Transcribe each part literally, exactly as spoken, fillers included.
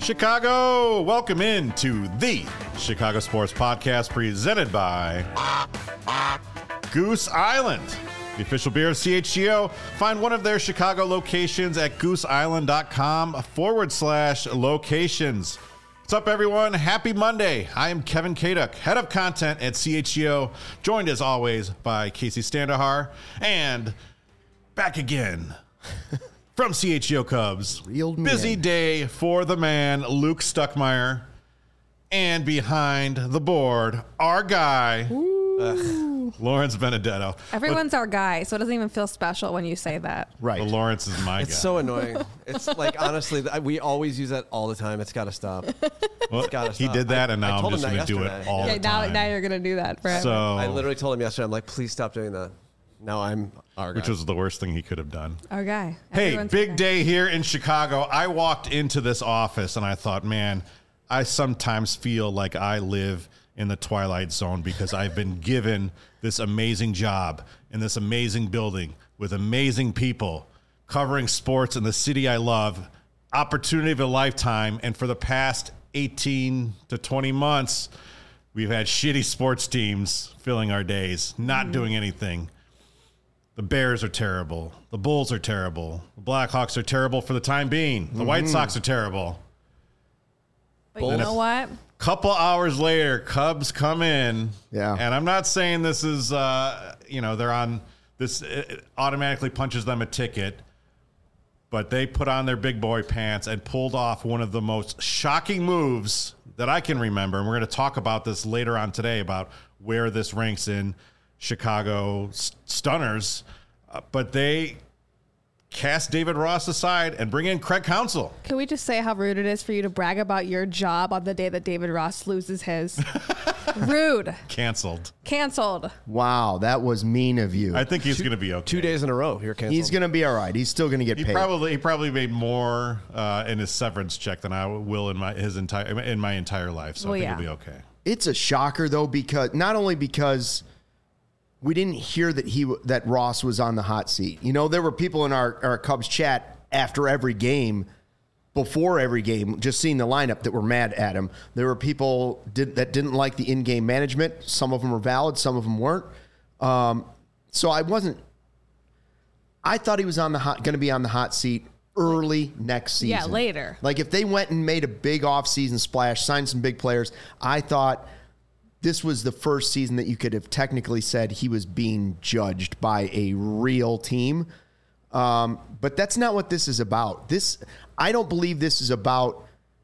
Chicago, welcome in to the Chicago Sports Podcast presented by Goose Island, the official beer of C H G O. Find one of their Chicago locations at gooseisland.com forward slash locations. What's up, everyone? Happy Monday. I am Kevin Kaduk, head of content at C H G O, joined as always by Casey Standahar, and back again from C H G O Cubs. Real Busy man. day for the man, Luke Stuckmeyer. And behind the board, our guy, uh, Lawrence Benedetto. Everyone's our guy, so it doesn't even feel special when you say that. Right. But Lawrence is my It's guy. so annoying. It's like, honestly, th- we always use that all the time. It's got to stop. Well, gotta he stop. did that, I- and I now I'm told just him going that to do it yesterday. all Yeah, the now, time. now you're gonna do that forever. So, I literally told him yesterday, I'm like, please stop doing that. Now I'm our guy. which was the worst thing he could have done. our guy. Hey, Everyone's big our guy. day here in Chicago. I walked into this office and I thought, man, I sometimes feel like I live in the Twilight Zone because I've been given this amazing job in this amazing building with amazing people covering sports in the city I love, opportunity of a lifetime. And for the past eighteen to twenty months, we've had shitty sports teams filling our days, not mm. doing anything. The Bears are terrible. The Bulls are terrible. The Blackhawks are terrible for the time being. The mm-hmm. White Sox are terrible. But you know what? Couple hours later, Cubs come in. Yeah. And I'm not saying this is, uh, you know, they're on this, it automatically punches them a ticket. But they put on their big boy pants and pulled off one of the most shocking moves that I can remember. And we're going to talk about this later on today about where this ranks in Chicago stunners. Uh, but they cast David Ross aside and bring in Craig Counsell. Can we just say how rude it is for you to brag about your job on the day that David Ross loses his? Rude. Canceled. Canceled. Wow, that was mean of you. I think he's going to be okay. Two days in a row, you're canceled. He's going to be all right. He's still going to get He paid. probably he probably made more uh, in his severance check than I will in my his entire in my entire life. So Well, I think yeah. he'll be okay. It's a shocker though, because not only because we didn't hear that he that Ross was on the hot seat. You know, there were people in our, our Cubs chat after every game, before every game, just seeing the lineup that were mad at him. There were people did, that didn't like the in-game management. Some of them were valid, some of them weren't. Um, so I wasn't. I thought he was on the hot, going to be on the hot seat early next season. Yeah, later. Like if they went and made a big offseason splash, signed some big players, I thought this was the first season that you could have technically said he was being judged by a real team. Um, but that's not what this is about. This, I don't believe this is about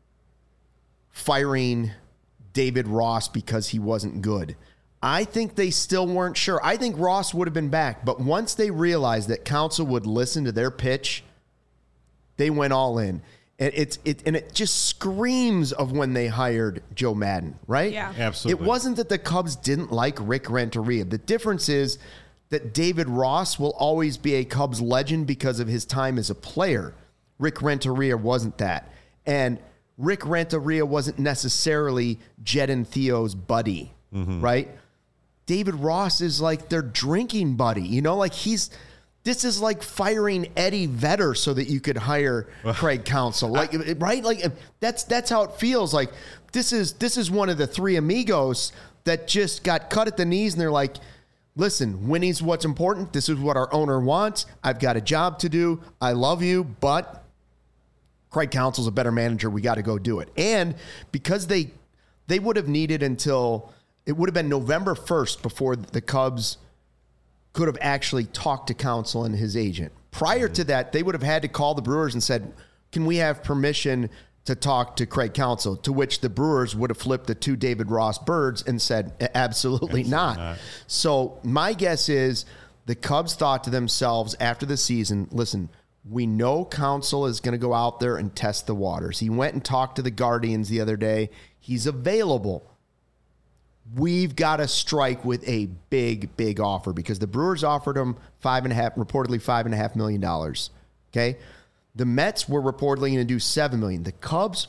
firing David Ross because he wasn't good. I think they still weren't sure. I think Ross would have been back, but once they realized that Counsell would listen to their pitch, they went all in. And it's it and it just screams of when they hired Joe Madden, right? Yeah. Absolutely. It wasn't that the Cubs didn't like Rick Renteria. The difference is that David Ross will always be a Cubs legend because of his time as a player. Rick Renteria wasn't that. And Rick Renteria wasn't necessarily Jed and Theo's buddy, mm-hmm. right? David Ross is like their drinking buddy. You know, like he's... This is like firing Eddie Vedder so that you could hire Craig Counsell, like right? Like that's that's how it feels. Like this is this is one of the three amigos that just got cut at the knees, and they're like, "Listen, winning's what's important. This is what our owner wants. I've got a job to do. I love you, but Craig Counsell's a better manager. We got to go do it." And because they they would have needed until it would have been November first before the Cubs could have actually talked to Counsell and his agent. Prior to that, they would have had to call the Brewers and said, can we have permission to talk to Craig Counsell? To which the Brewers would have flipped the two David Ross birds and said, absolutely, absolutely not. not. So my guess is the Cubs thought to themselves after the season, listen, we know Counsell is going to go out there and test the waters. He went and talked to the Guardians the other day. He's available. We've got to strike with a big, big offer because the Brewers offered him five and a half, reportedly five and a half million dollars. Okay. The Mets were reportedly going to do seven million. The Cubs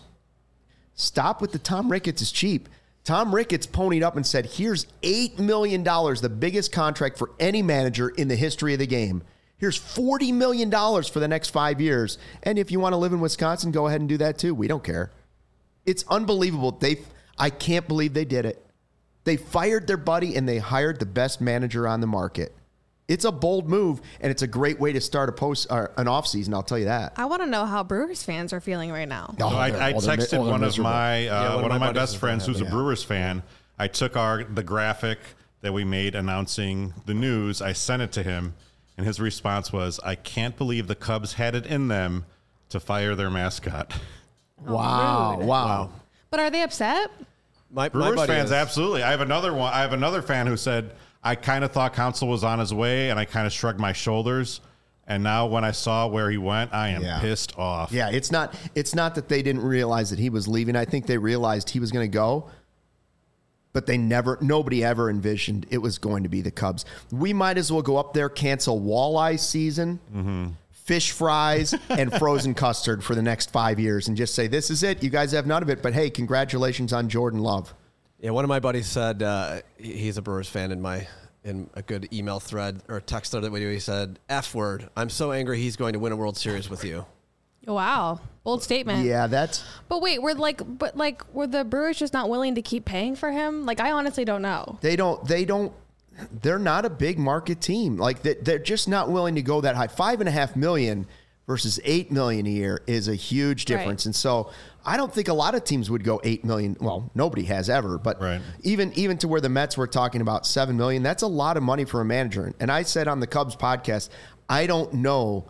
stop with the Tom Ricketts is cheap. Tom Ricketts ponied up and said, here's eight million dollars, the biggest contract for any manager in the history of the game. Here's forty million dollars for the next five years. And if you want to live in Wisconsin, go ahead and do that too. We don't care. It's unbelievable. They, I can't believe they did it. They fired their buddy and they hired the best manager on the market. It's a bold move, and it's a great way to start a post or an off season. I'll tell you that. I want to know how Brewers fans are feeling right now. Oh, So I, they're- I oh, they're mi- texted oh, they're one of miserable. my uh, Yeah, one, one of of my my buddies best is friends who's a yeah. Brewers fan. I took our the graphic that we made announcing the news. I sent it to him, and his response was, "I can't believe the Cubs had it in them to fire their mascot." Wow, rude. wow. But are they upset? My, my Brewers buddy fans, is. absolutely. I have another one. I have another fan who said, "I kind of thought Counsell was on his way, and I kind of shrugged my shoulders. And now when I saw where he went, I am Yeah. pissed off." Yeah, it's not it's not that they didn't realize that he was leaving. I think they realized he was going to go, but they never nobody ever envisioned it was going to be the Cubs. We might as well go up there, cancel walleye season, Mm-hmm. fish fries, and frozen custard for the next five years and just say, this is it. You guys have none of it, but hey, congratulations on Jordan Love. Yeah, one of my buddies said uh, he- he's a Brewers fan in my in a good email thread or text thread that we do. He said, "F word. I'm so angry he's going to win a World Series with you." Wow, bold statement. Yeah, that's But wait, we're like, but like, were the Brewers just not willing to keep paying for him? Like, I honestly don't know. they don't they don't they're not a big market team. Like they- they're just not willing to go that high. Five and a half million versus eight million a year is a huge difference. Right. And so I don't think a lot of teams would go eight million. Well, nobody has ever, but Right. even even to where the Mets were talking about seven million, that's a lot of money for a manager. And I said on the Cubs podcast, I don't know.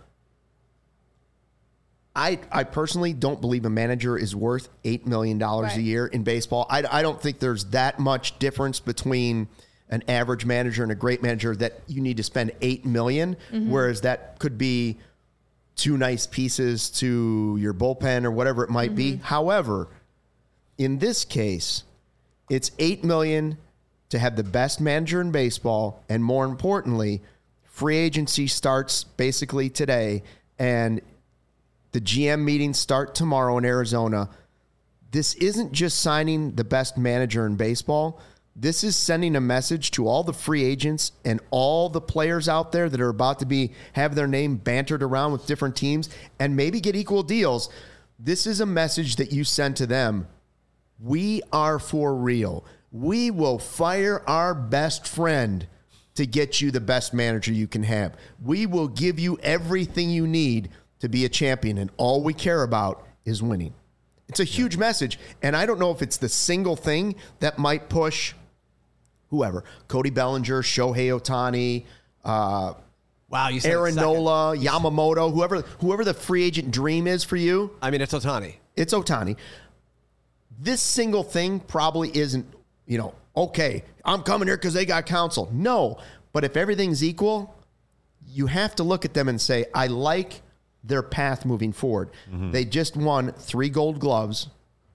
I, I personally don't believe a manager is worth eight million dollars a Right. year in baseball. I, I don't think there's that much difference between an average manager and a great manager that you need to spend eight million dollars, whereas that could be two nice pieces to your bullpen or whatever it might be. However, in this case, it's eight million dollars to have the best manager in baseball, and more importantly, free agency starts basically today, and the G M meetings start tomorrow in Arizona. This isn't just signing the best manager in baseball. This is sending a message to all the free agents and all the players out there that are about to be have their name bantered around with different teams and maybe get equal deals. This is a message that you send to them. We are for real. We will fire our best friend to get you the best manager you can have. We will give you everything you need to be a champion, and all we care about is winning. It's a huge message, and I don't know if it's the single thing that might push whoever, Cody Bellinger, Shohei Ohtani, uh, Wow, you said it Aaron second. Nola, Yamamoto, whoever whoever the free agent dream is for you. I mean, it's Ohtani. It's Ohtani. This single thing probably isn't, you know, okay, I'm coming here because they got counsel. No, but if everything's equal, you have to look at them and say, I like their path moving forward. They just won three gold gloves.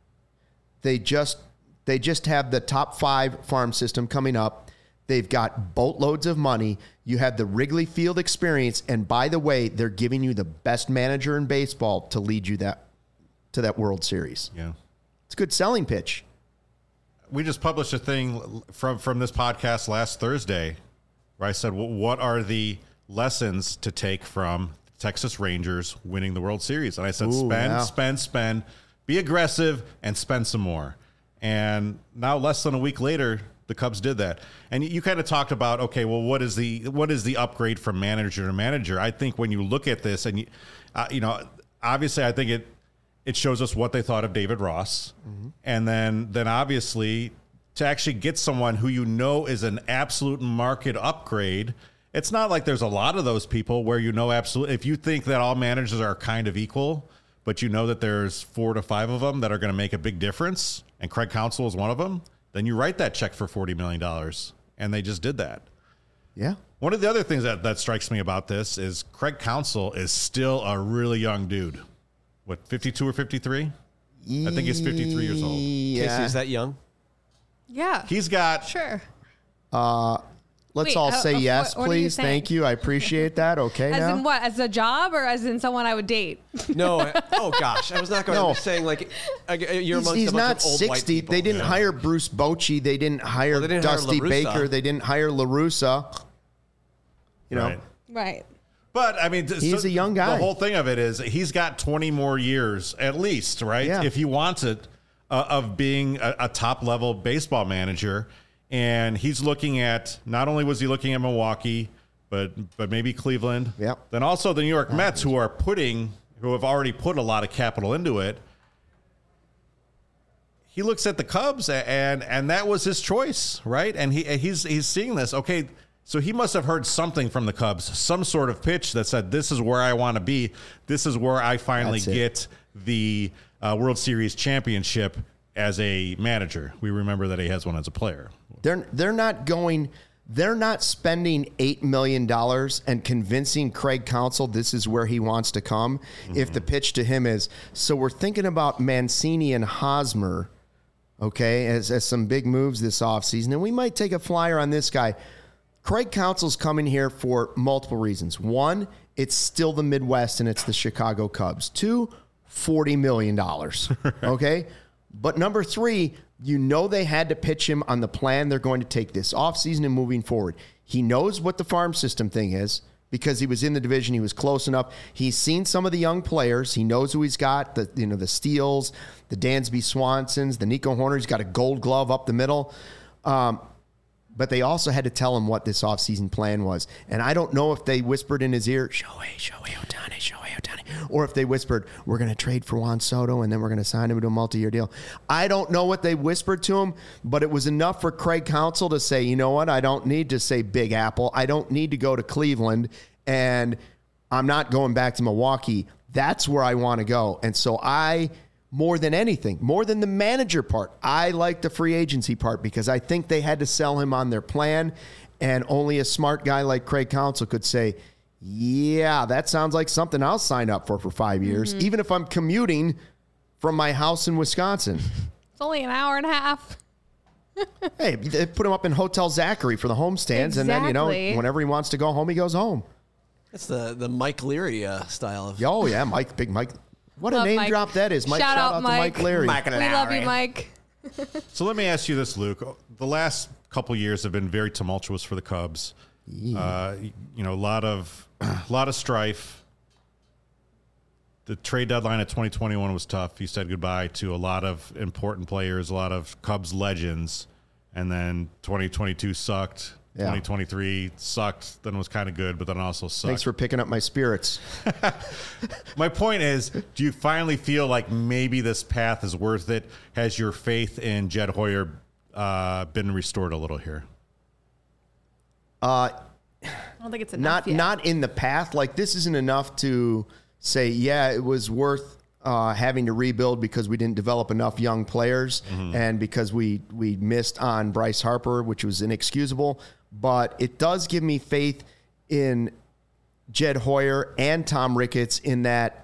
They just they just have the top five farm system coming up. They've got boatloads of money. You have the Wrigley Field experience, and by the way, they're giving you the best manager in baseball to lead you that to that World Series. Yeah. It's a good selling pitch. We just published a thing from from this podcast last Thursday where I said, well, what are the lessons to take from Texas Rangers winning the World Series? And I said, Ooh, spend, yeah. spend, spend, be aggressive, and spend some more. And now, less than a week later, the Cubs did that. And you kind of talked about, okay, well, what is the what is the upgrade from manager to manager? I think when you look at this, and you, uh, you know, obviously, I think it it shows us what they thought of David Ross, Mm-hmm. and then then obviously to actually get someone who you know is an absolute market upgrade. It's not like there's a lot of those people where you know absolutely. If you think that all managers are kind of equal, but you know that there's four to five of them that are going to make a big difference, and Craig Counsell is one of them, then you write that check for forty million dollars, and they just did that. Yeah. One of the other things that, that strikes me about this is Craig Counsell is still a really young dude. What, fifty-two or fifty-three? I think he's fifty-three years old. Yeah. Casey, is that young? Yeah. He's got sure. Let's Wait, all uh, say uh, yes, what- what are you please. saying? Thank you. I appreciate that. Okay. As now? in what? As a job or as in someone I would date? No. I- oh gosh, I was not going. No. I'm just saying like uh, you're He's, amongst he's a bunch not of old white sixty. people. They didn't Yeah. hire Bruce Bochy. They didn't hire Well, they didn't hire Dusty La Russa. Baker. They didn't hire LaRussa. You know, right. Right. But I mean, th- He's a young guy. The whole thing of it is he's got twenty more years at least, right? Yeah. If he wants it. uh, of being a, a top level baseball manager. And he's looking at, not only was he looking at Milwaukee, but but maybe Cleveland. Yep. Then also the New York Mets, who are putting, who have already put a lot of capital into it. He looks at the Cubs, and and that was his choice, right? And he he's he's seeing this. Okay, so he must have heard something from the Cubs, some sort of pitch that said, "This is where I want to be. This is where I finally That's it. get the uh, World Series championship as a manager." We remember that he has one as a player. They're they're not going. They're not spending eight million dollars and convincing Craig Counsell this is where he wants to come. Mm-hmm. If the pitch to him is, so we're thinking about Mancini and Hosmer, okay, as, as some big moves this offseason, and we might take a flyer on this guy. Craig Counsell's coming here for multiple reasons. One, it's still the Midwest and it's the Chicago Cubs. Two, forty million dollars, okay? But number three, you know they had to pitch him on the plan they're going to take this offseason and moving forward. He knows what the farm system thing is because he was in the division. He was close enough. He's seen some of the young players. He knows who he's got, the you know the Steels, the Dansby Swansons, the Nico Horner. He's got a gold glove up the middle. Um, but they also had to tell him what this offseason plan was. And I don't know if they whispered in his ear, Shohei, Shohei Ohtani, Shohei Ohtani. Or if they whispered, we're going to trade for Juan Soto and then we're going to sign him to a multi-year deal. I don't know what they whispered to him, but it was enough for Craig Counsell to say, you know what, I don't need to say Big Apple. I don't need to go to Cleveland, and I'm not going back to Milwaukee. That's where I want to go. And so I, more than anything, more than the manager part, I like the free agency part because I think they had to sell him on their plan, and only a smart guy like Craig Counsell could say, yeah, that sounds like something I'll sign up for for five years, mm-hmm. even if I'm commuting from my house in Wisconsin. It's only an hour and a half. Hey, they put him up in Hotel Zachary for the homestands, exactly. and then, you know, whenever he wants to go home, he goes home. That's the, the Mike Leary uh, style of... Oh, yeah, Mike, big Mike. What love a name Mike. drop that is. Mike, shout, shout out, out Mike. to Mike Leary. Mike we love you, Mike. So let me ask you this, Luke. The last couple years have been very tumultuous for the Cubs. Yeah. Uh, you know, a lot of a lot of strife. The trade deadline of twenty twenty-one was tough. He said goodbye to a lot of important players, a lot of Cubs legends, and then twenty twenty-two sucked. Yeah. twenty twenty-three sucked, then was kind of good, but then also sucked. Thanks for picking up my spirits. My point is, do you finally feel like maybe this path is worth it? Has your faith in Jed Hoyer uh, been restored a little here? Uh, I don't think it's enough not yet. not in the path. Like, this isn't enough to say, yeah, it was worth uh, having to rebuild because we didn't develop enough young players mm-hmm. and because we we missed on Bryce Harper, which was inexcusable. But it does give me faith in Jed Hoyer and Tom Ricketts in that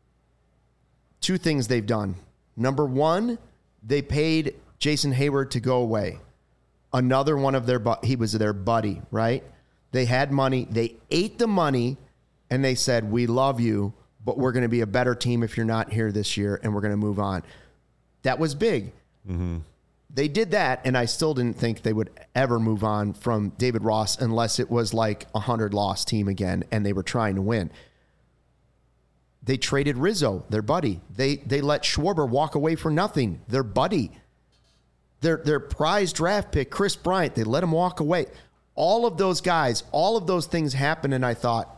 two things they've done. Number one, they paid Jason Hayward to go away. Another one of their, he was their buddy, right? They had money. They ate the money, and they said, we love you, but we're going to be a better team if you're not here this year, and we're going to move on. That was big. Mm-hmm. They did that, and I still didn't think they would ever move on from David Ross unless it was like a hundred-loss team again, and they were trying to win. They traded Rizzo, their buddy. They they let Schwarber walk away for nothing, their buddy. Their their prize draft pick, Chris Bryant, they let him walk away. All of those guys, all of those things happened, and I thought,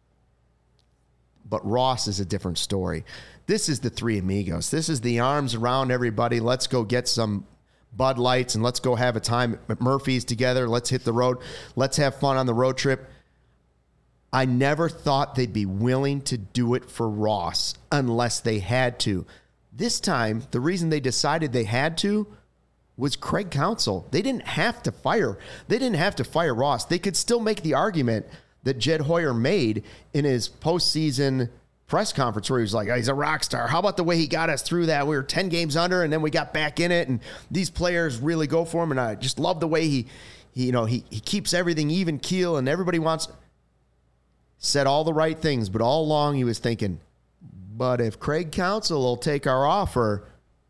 but Ross is a different story. This is the three amigos. This is the arms around everybody. Let's go get some Bud Lights, and let's go have a time at Murphy's together. Let's hit the road. Let's have fun on the road trip. I never thought they'd be willing to do it for Ross unless they had to. This time, the reason they decided they had to was Craig Counsell. They didn't have to fire. They didn't have to fire Ross. They could still make the argument that Jed Hoyer made in his postseason press conference where he was like, oh, he's a rock star. How about the way he got us through that? We were ten games under, and then we got back in it, and these players really go for him, and I just love the way he, he you know, he, he keeps everything even keel, and everybody wants... Said all the right things, but all along he was thinking, but if Craig Counsell will take our offer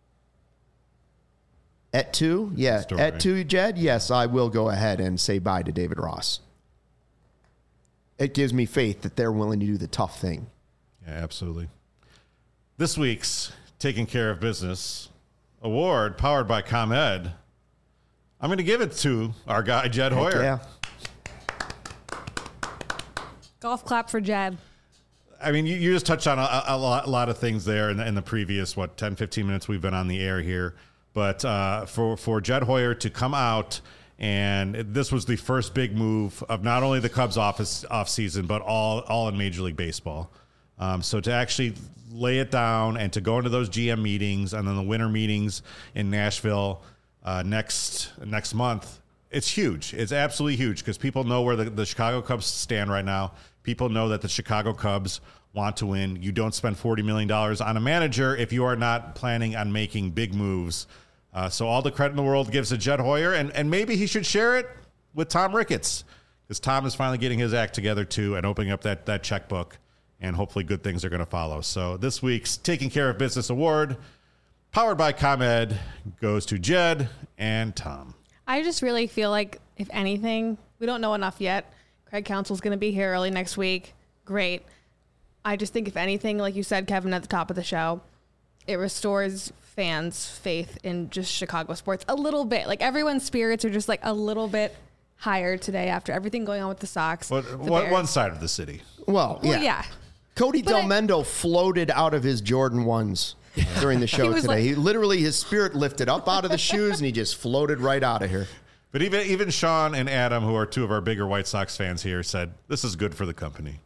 at two, yeah, Story. at two, Jed, yes, I will go ahead and say bye to David Ross. It gives me faith that they're willing to do the tough thing. Yeah, absolutely. This week's Taking Care of Business award powered by ComEd, I'm going to give it to our guy, Jed Heck Hoyer. yeah. Golf clap for Jed. I mean, you, you just touched on a, a, lot, a lot of things there in the, in the previous, what, ten, fifteen minutes we've been on the air here. But uh, for, for Jed Hoyer to come out, and this was the first big move of not only the Cubs office off season, but all, all in Major League Baseball. Um, so to actually lay it down and to go into those G M meetings and then the winter meetings in Nashville uh, next next month, it's huge. It's absolutely huge because people know where the, the Chicago Cubs stand right now. People know that the Chicago Cubs want to win. You don't spend forty million dollars on a manager if you are not planning on making big moves. Uh, so all the credit in the world gives to Jed Hoyer, and, and maybe he should share it with Tom Ricketts because Tom is finally getting his act together too and opening up that, that checkbook, and hopefully good things are going to follow. So this week's Taking Care of Business Award, powered by ComEd, goes to Jed and Tom. I just really feel like, if anything, we don't know enough yet. Craig Counsell's going to be here early next week. Great. I just think, if anything, like you said, Kevin, at the top of the show, it restores fans' faith in just Chicago sports a little bit. Like, everyone's spirits are just like a little bit higher today after everything going on with the Sox. What, the what one side of the city? Well, yeah. Well, yeah. Cody But I- Delmendo floated out of his Jordan ones during the show He was today. like- he literally, his spirit lifted up out of the shoes and he just floated right out of here. But even even Sean and Adam, who are two of our bigger White Sox fans here, said this is good for the company.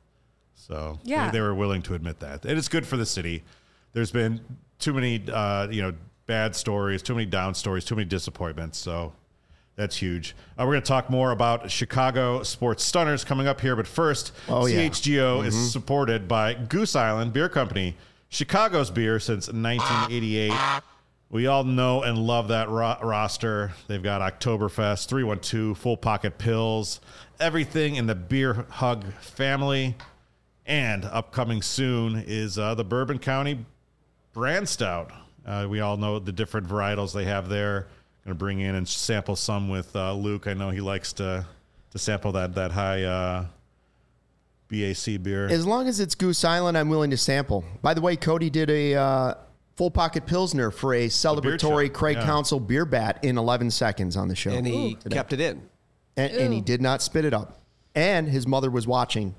So Yeah. they, they were willing to admit that. And it's good for the city. There's been too many uh, you know bad stories, too many down stories, too many disappointments. So that's huge. Uh, we're going to talk more about Chicago sports stunners coming up here. But first, Oh, yeah. C H G O is supported by Goose Island Beer Company, Chicago's beer since nineteen eighty-eight. We all know and love that ro- roster. They've got Oktoberfest, three one two, Full Pocket Pills, everything in the Beer Hug family. And upcoming soon is uh, the Bourbon County Brand Stout. Uh, we all know the different varietals they have there. Going to bring in and sample some with uh, Luke. I know he likes to to sample that that high uh, B A C beer. As long as it's Goose Island, I'm willing to sample. By the way, Cody did a uh, Full Pocket Pilsner for a celebratory chug, Craig yeah. Counsell beer bat in eleven seconds on the show. And he Today. kept it in. And, and he Ooh. did not spit it up. And his mother was watching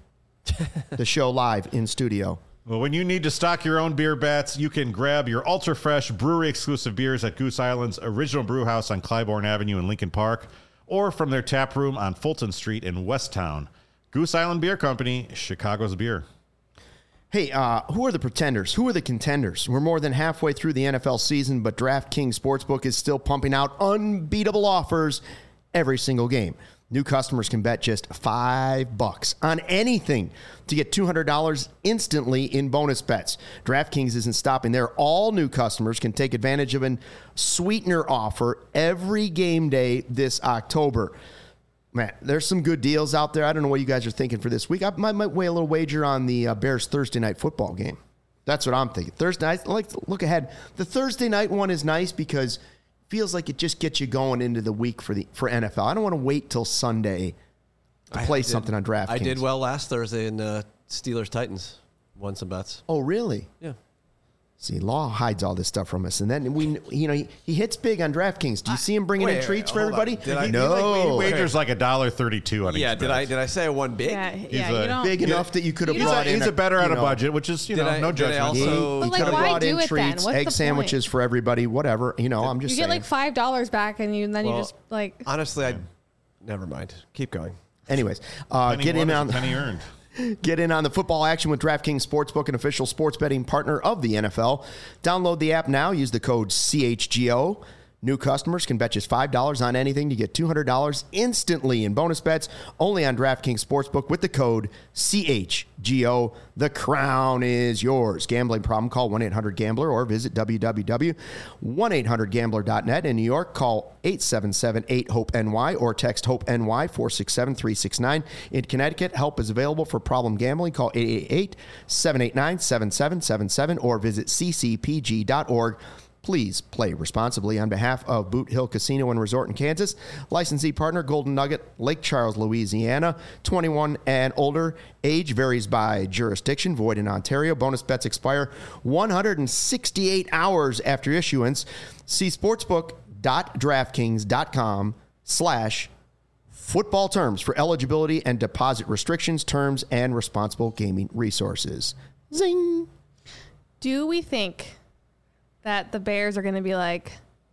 the show live in studio. Well, when you need to stock your own beer bats, you can grab your ultra fresh brewery exclusive beers at Goose Island's original brew house on Clybourne Avenue in Lincoln Park, or from their tap room on Fulton Street in Westtown. Goose Island Beer Company, Chicago's beer. Hey, uh, who are the pretenders? Who are the contenders? We're more than halfway through the N F L season, but DraftKings Sportsbook is still pumping out unbeatable offers every single game. New customers can bet just five bucks on anything to get two hundred dollars instantly in bonus bets. DraftKings isn't stopping there. All new customers can take advantage of a sweetener offer every game day this October. Man, there's some good deals out there. I don't know what you guys are thinking for this week. I might, might weigh a little wager on the uh, Bears Thursday night football game. That's what I'm thinking. Thursday night, I like to look ahead. The Thursday night one is nice because feels like it just gets you going into the week for the for N F L. I don't want to wait till Sunday to I play did- something on DraftKings. I did well last Thursday in uh, Steelers Titans. Won some bets. Oh, really? Yeah. See, Law hides all this stuff from us, and then we, you know, he, he hits big on DraftKings. Do you see him bringing in Wait, treats for hold on. everybody? Did I- He, no, he, like, he wagers like a dollar thirty-two on Yeah. each Did bet. I did I say I won big? Yeah, yeah. a You don't. big enough that you could have You He's, don't- brought a, in. he's a better you on a know, budget, which is, you Did know, I- no did I judgment. He, also- he But, like, could have why brought do in it then? treats, What's egg the sandwiches point? for everybody, whatever. You know, I'm just You saying. get like five dollars back, and you then Well, you just like. Honestly, I never mind. Keep going. Anyways, uh, Penny get won in is a on penny earned. Get in on the football action with DraftKings Sportsbook, an official sports betting partner of the N F L. Download the app now. Use the code C H G O. New customers can bet just five dollars on anything to get two hundred dollars instantly in bonus bets only on DraftKings Sportsbook with the code C H G O. The crown is yours. Gambling problem? Call one eight hundred gambler or visit w w w dot one eight hundred gambler dot net. In New York, call eight seven seven eight hope N Y or text HOPE-NY four six seven three six nine. In Connecticut, help is available for problem gambling. Call eight eight eight seven eight nine seven seven seven seven or visit c c p g dot org. Please play responsibly on behalf of Boot Hill Casino and Resort in Kansas. Licensee partner Golden Nugget, Lake Charles, Louisiana. twenty-one and older. Age varies by jurisdiction. Void in Ontario. Bonus bets expire one hundred sixty-eight hours after issuance. See sportsbook.draftkings.com slash football terms for eligibility and deposit restrictions, terms, and responsible gaming resources. Zing. Do we think that the Bears are going to be like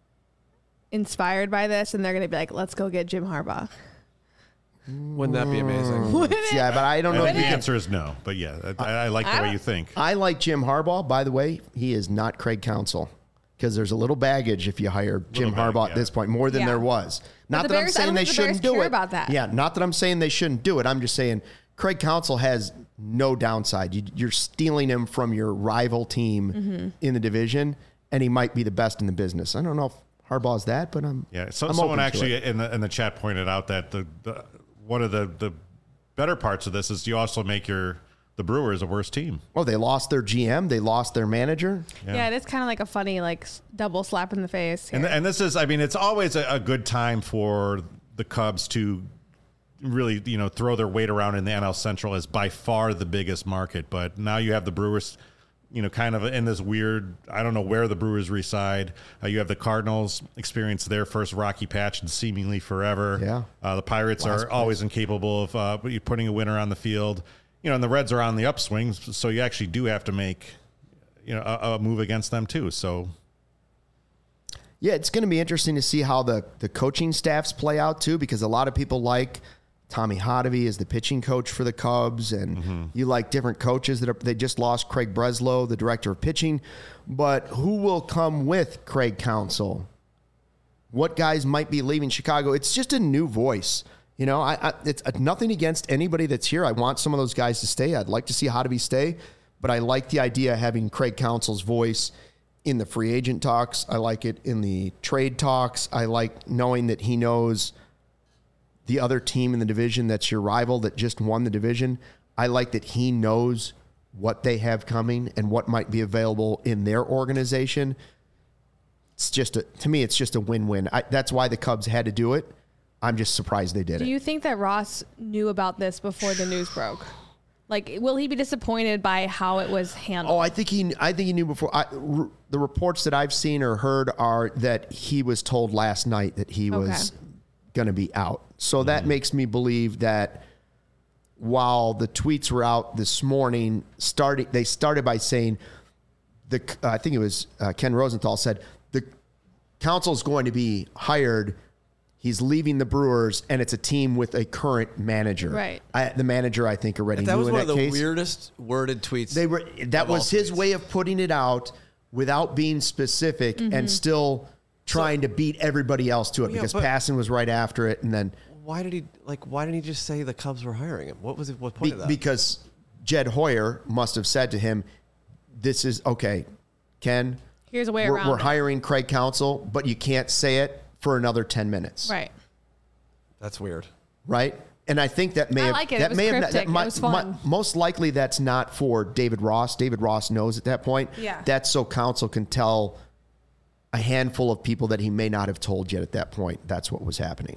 inspired by this and they're going to be like, let's go get Jim Harbaugh? Wouldn't that be amazing? Yeah, but I don't I know. think If the you answer is no. But yeah, I, I like the I way don't- you think. I like Jim Harbaugh. By the way, he is not Craig Counsell because there's a little baggage if you hire Jim bag, Harbaugh yeah. at this point, more than Yeah. there was. Not the that I'm Bears- I saying don't they think the Bears shouldn't do care it. about that. Yeah, not that I'm saying they shouldn't do it. I'm just saying Craig Counsell has no downside. You, you're stealing him from your rival team Mm-hmm. in the division, and he might be the best in the business. I don't know if Harbaugh's that, but I'm Yeah. So I'm someone open to actually it. in the in the chat pointed out that the, the one of the the better parts of this is you also make your the Brewers a worse team. Oh, they lost their G M. They lost their manager. Yeah. Yeah, it is kind of like a funny like s- double slap in the face. And here. and this is, I mean, it's always a, a good time for the Cubs to really, you know, throw their weight around in the N L Central as by far the biggest market. But now you have the Brewers, you know, kind of in this weird, I don't know where the Brewers reside. Uh, you have the Cardinals experience their first rocky patch in seemingly forever. Yeah. Uh, the Pirates Last are place. always incapable of uh, putting a winner on the field. You know, and the Reds are on the upswing, so you actually do have to make, you know, a, a move against them too. So Yeah, it's going to be interesting to see how the, the coaching staffs play out, too, because a lot of people like Tommy Hotovy as the pitching coach for the Cubs, and Mm-hmm. you like different coaches that are, they just lost Craig Breslow, the director of pitching. But who will come with Craig Counsell? What guys might be leaving Chicago? It's just a new voice. You know, I, I it's nothing against anybody that's here. I want some of those guys to stay. I'd like to see Hotovy stay, but I like the idea of having Craig Counsell's voice in the free agent talks. I like it in the trade talks. I like knowing that he knows the other team in the division that's your rival that just won the division. I like that he knows what they have coming and what might be available in their organization. It's just a, to me, it's just a win-win. I, that's why the Cubs had to do it. I'm just surprised they did Do it. you think that Ross knew about this before the news broke? Like, will he be disappointed by how it was handled? Oh, I think he. I think he knew before. I, r- the reports that I've seen or heard are that he was told last night that he was Okay. going to be out. So that makes me believe that while the tweets were out this morning, starting they started by saying the. Uh, I think it was uh, Ken Rosenthal said the council is going to be hired. He's leaving the Brewers, and it's a team with a current manager. Right. I, the manager, I think, already That knew was in one that of the case. weirdest worded tweets. They were that of all was his tweets. way of putting it out without being specific Mm-hmm. and still trying to beat everybody else to it Yeah, because but- Passan was right after it, and then Why did he like? Why didn't he just say the Cubs were hiring him? What was it? What be, point of that? because Jed Hoyer must have said to him, "This is okay, Ken. Here's a way we're, around we're it." hiring Craig Counsell, but you can't say it for another ten minutes, Right. That's weird. Right?" And I think that may I have like it. It that was may have cryptic. that It might- was might- fun. most likely that's not for David Ross. David Ross knows at that point. Yeah. That's so Counsell can tell a handful of people that he may not have told yet at that point. That's what was happening.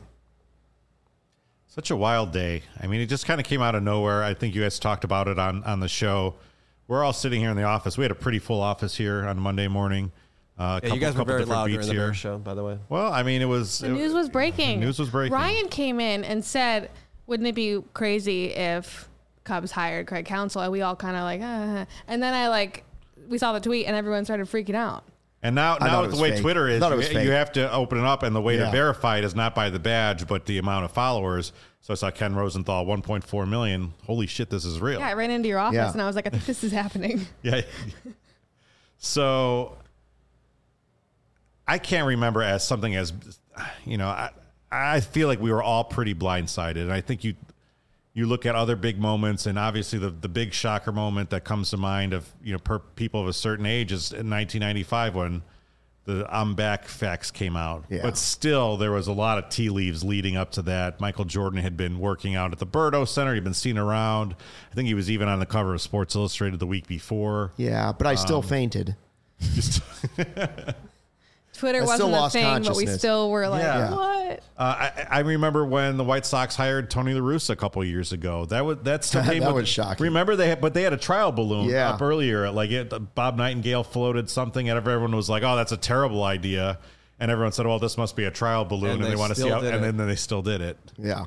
such a wild day. I mean, it just kind of came out of nowhere. I think you guys talked about it on, on the show. We're all sitting here in the office. We had a pretty full office here on Monday morning. Uh, a Yeah, you guys were couple very different loud beats during the here. Bears show, by the way. Well, I mean, it was The it- news was breaking. News was breaking. Ryan came in and said, "Wouldn't it be crazy if Cubs hired Craig Counsell?" And we all kind of like, uh, and then I like, we saw the tweet and everyone started freaking out. And now, I now thought it with was the way fake. Twitter I is, thought it was you, fake. you have to open it up, and the way Yeah. to verify it is not by the badge, but the amount of followers. So I saw Ken Rosenthal, one point four million. Holy shit, this is real. Yeah, I ran into your office Yeah. and I was like, I think this is happening. Yeah. So I can't remember as something as, you know, I, I feel like we were all pretty blindsided. And I think you you look at other big moments, and obviously the, the big shocker moment that comes to mind of, you know, per people of a certain age is in nineteen ninety-five when the I'm back fax came out. Yeah. But still, there was a lot of tea leaves leading up to that. Michael Jordan had been working out at the Birdo Center. He'd been seen around. I think he was even on the cover of Sports Illustrated the week before. Yeah, but I still Um, fainted. Just Twitter I wasn't still a lost thing, but we consciousness. still were like, Yeah. what? Uh, I, I remember when the White Sox hired Tony La Russa a couple of years ago. That was that still came That with- was shocking. Remember they had, but they had a trial balloon Yeah. up earlier. Like it, Bob Nightingale floated something, and everyone was like, "Oh, that's a terrible idea," and everyone said, "Well, this must be a trial balloon," And and, they they want to see still how, did and it. then, then they still did it. Yeah.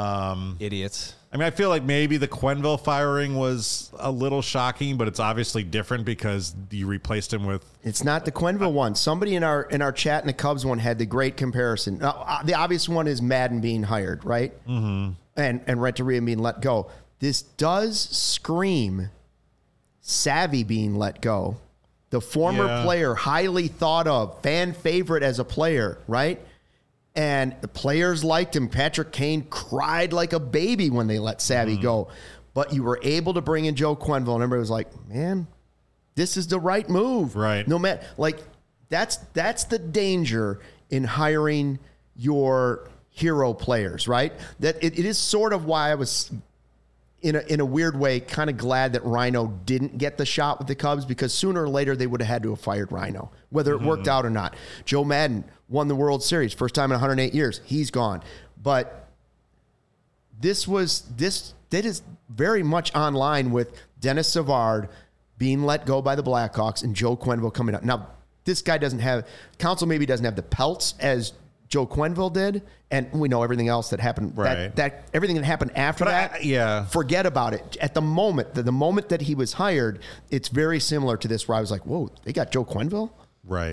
Idiots. I mean, I feel like maybe the Quenneville firing was a little shocking, but it's obviously different because you replaced him with. It's not the Quenneville one. Somebody in our in our chat in the Cubs one had the great comparison. Now, uh, the obvious one is Madden being hired, right? Mm-hmm. And and Renteria being let go. This does scream Savvy being let go. The former Yeah. player, highly thought of, fan favorite as a player, right? And the players liked him. Patrick Kane cried like a baby when they let Savvy Mm-hmm. go. But you were able to bring in Joe Quenneville, and everybody was like, man, this is the right move. Right. No matter, like, that's that's the danger in hiring your hero players, right? That it, it is sort of why I was in a, in a weird way, kind of glad that Rhino didn't get the shot with the Cubs, because sooner or later they would have had to have fired Rhino, whether it worked out or not. Joe Madden won the World Series, first time in one hundred eight years. He's gone. But this was, this, that is very much online with Dennis Savard being let go by the Blackhawks and Joe Quenneville coming up. Now, this guy doesn't have, Council maybe doesn't have the pelts as Joe Quenneville did, and we know everything else that happened. Right. That, that everything that happened after But I- that, yeah. forget about it. At the moment, the, the moment that he was hired, it's very similar to this, where I was like, "Whoa, they got Joe Quenneville." Right.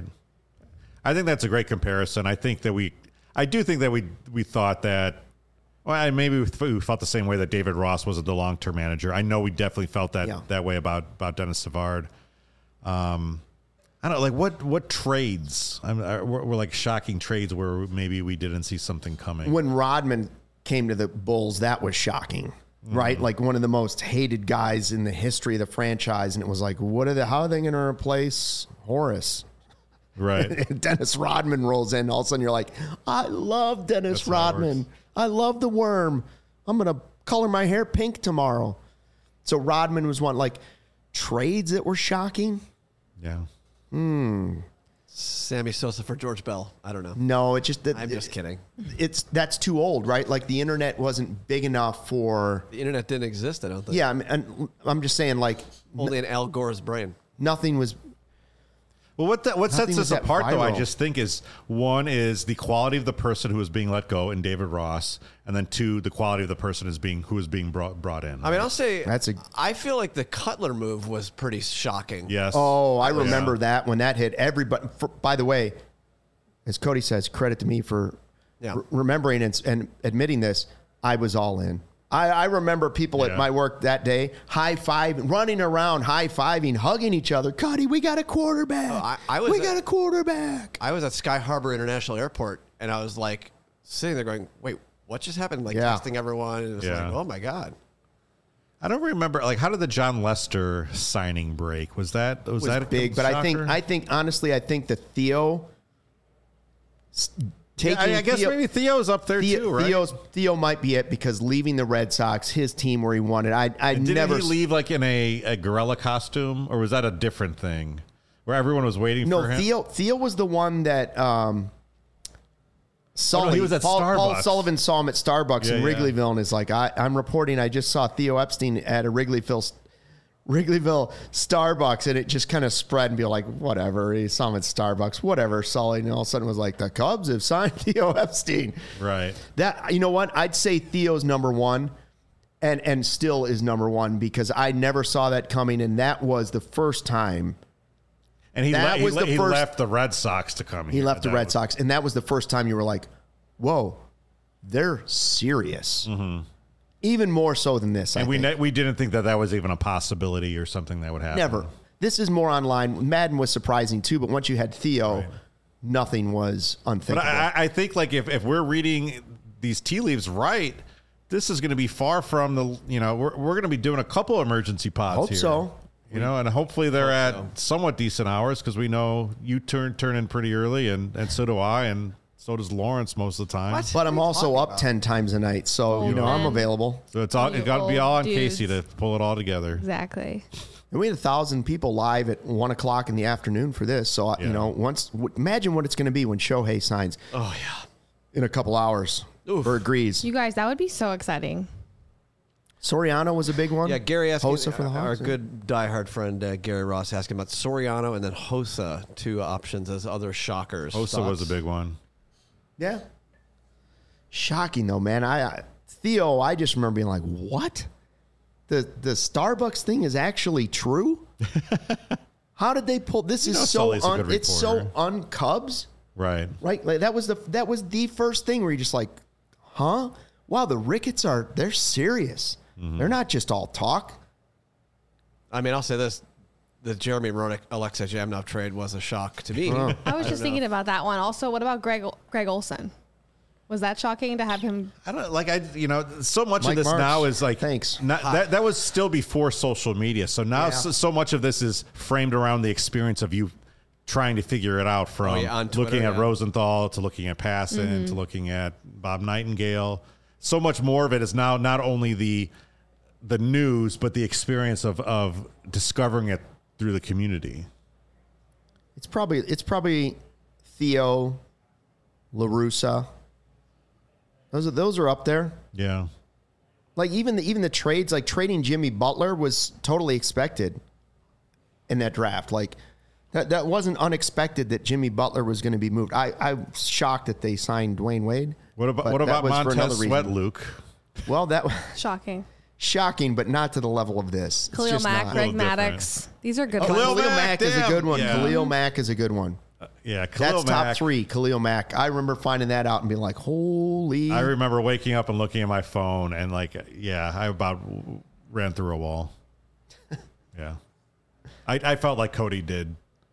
I think that's a great comparison. I think that we, I do think that we we thought that, well, I- maybe we we felt the same way that David Ross was the long term manager. I know we definitely felt that Yeah. that way about about Dennis Savard. Um, I don't know, like what what trades I'm, are, were, were like shocking trades where maybe we didn't see something coming. When Rodman came to the Bulls, that was shocking, right? Like one of the most hated guys in the history of the franchise, and it was like, what are they? How are they going to replace Horace? Right. Dennis Rodman rolls in. All of a sudden, you're like, I love Dennis That's how it Rodman. works. I love the worm. I'm going to color my hair pink tomorrow. So Rodman was one, like trades that were shocking. Yeah. Sammy Sosa for George Bell. I don't know. No, it just that I'm just kidding. It's that's too old, right? Like the internet wasn't big enough for. The internet didn't exist, I don't think. Yeah, I'm, and I'm just saying, like Only in Al Gore's brain. nothing was. Well, what that, what Nothing sets was this that apart, though, I viral. just think is one is the quality of the person who is being let go in David Ross, and then two, the quality of the person is being who is being brought brought in. I mean, I'll say That's a- I feel like the Cutler move was pretty shocking. yes. Oh, I Yeah. remember that when that hit. Everybody. For, by the way, as Cody says, credit to me for Yeah. re- remembering and, and admitting this. I was all in. I, I remember people at Yeah. my work that day high fiving, running around, high fiving, hugging each other. Cody, we got a quarterback. Oh, I- I was we at- got a quarterback. I was at Sky Harbor International Airport, and I was like sitting there going, "Wait, what just happened?" Like Yeah. testing everyone, and it was Yeah. like, "Oh my god!" I don't remember. Like, how did the John Lester signing break? Was that was, was that a big, but I think shocker? I think honestly, I think the Theo s- taking. I, I guess Theo, maybe Theo's up there Theo, too, right? Theo's, Theo might be it because leaving the Red Sox, his team where he wanted. I I Didn't never he leave like in a, a gorilla costume, or was that a different thing where everyone was waiting No, for him? Theo Theo was the one that um Sully, Oh, he was at Paul, Paul Starbucks. Sullivan saw him at Starbucks Yeah, in yeah. Wrigleyville and is like, I, I'm reporting I just saw Theo Epstein at a Wrigleyville Wrigleyville Starbucks, and it just kind of spread and be like, whatever. He saw him at Starbucks, whatever, Sully, and all of a sudden was like, the Cubs have signed Theo Epstein. Right. That, you know what? I'd say Theo's number one, and and still is number one because I never saw that coming, and that was the first time And he, That le- was he, le- the he first- left the Red Sox to come he here. left the That Red was- Sox, and that was the first time you were like, whoa, they're serious. Even more so than this, I And we think. ne- we didn't think that that was even a possibility or something that would happen. Never. This is more online. Madden was surprising too, but once you had Theo, Right. nothing was But unthinkable. I, I think like if, if we're reading these tea leaves right, this is going to be far from the, you know, we're, we're going to be doing a couple emergency pods Hope here. so. You know, and hopefully they're at so. somewhat decent hours because we know you turn turn in pretty early, and, and so do I, and so does Lawrence most of the time. What? but I'm What are you also talking up about? ten times a night, so you Old know I'm men. available. So it's all You it got to be old all on dudes. Casey to pull it all together. Exactly. And we had a thousand people live at one o'clock in the afternoon for this. So, Yeah. you know, once w- imagine what it's going to be when Shohei signs Oh, yeah. in a couple hours Oof. or agrees. You guys, that would be so exciting. Soriano was a big one. Yeah, Gary asked Hossa me, for the our Hawks. good diehard friend uh, Gary Ross asking about Soriano and then Hossa, two options as other shockers. Osa was a Thoughts? big one. Yeah. Shocking though, man. I, I Theo, I just remember being like, "What? The the Starbucks thing is actually true? How did they pull this? You Is know so Sully's a un, good it's so reporter. un-Cubs, Right. right? Like that was the that was the first thing where you're just like, huh? Wow, the Ricketts are they're serious. Mm-hmm. They're not just all talk. I mean, I'll say this. The Jeremy Roenick, Alexa Jamnov trade was a shock to me. Oh. I was just thinking about that one. Also, what about Greg Greg Olson? Was that shocking to have him? I don't like I you know so much Mike of this Marks, now is like thanks. not, that that was still before social media. So now Yeah. so, so much of this is framed around the experience of you trying to figure it out from Oh, yeah, on Twitter, looking at yeah. Rosenthal to looking at Passan to looking at Bob Nightingale. So much more of it is now not only the the news but the experience of of discovering it through the community. It's probably it's probably Theo, La Russa. Those are those are up there. Yeah. Like even the even the trades, like trading Jimmy Butler was totally expected in that draft. Like that that wasn't unexpected that Jimmy Butler was going to be moved. I I'm shocked that they signed Dwayne Wade. What about but what that about was for another Montez reason. Sweat, Luke? Well, that Shocking. shocking, but not to the level of this. It's Khalil just Mack, not. Greg A little different. Maddox. These are good Oh, ones. Khalil Khalil Mack, Mack is a damn. good one. Yeah. Khalil Mack is a good one. Yeah, Khalil That's top Mack. three. Khalil Mack. I remember finding that out and being like, "Holy!" I remember waking up and looking at my phone and like, yeah, I about ran through a wall. Yeah, I, I felt like Cody did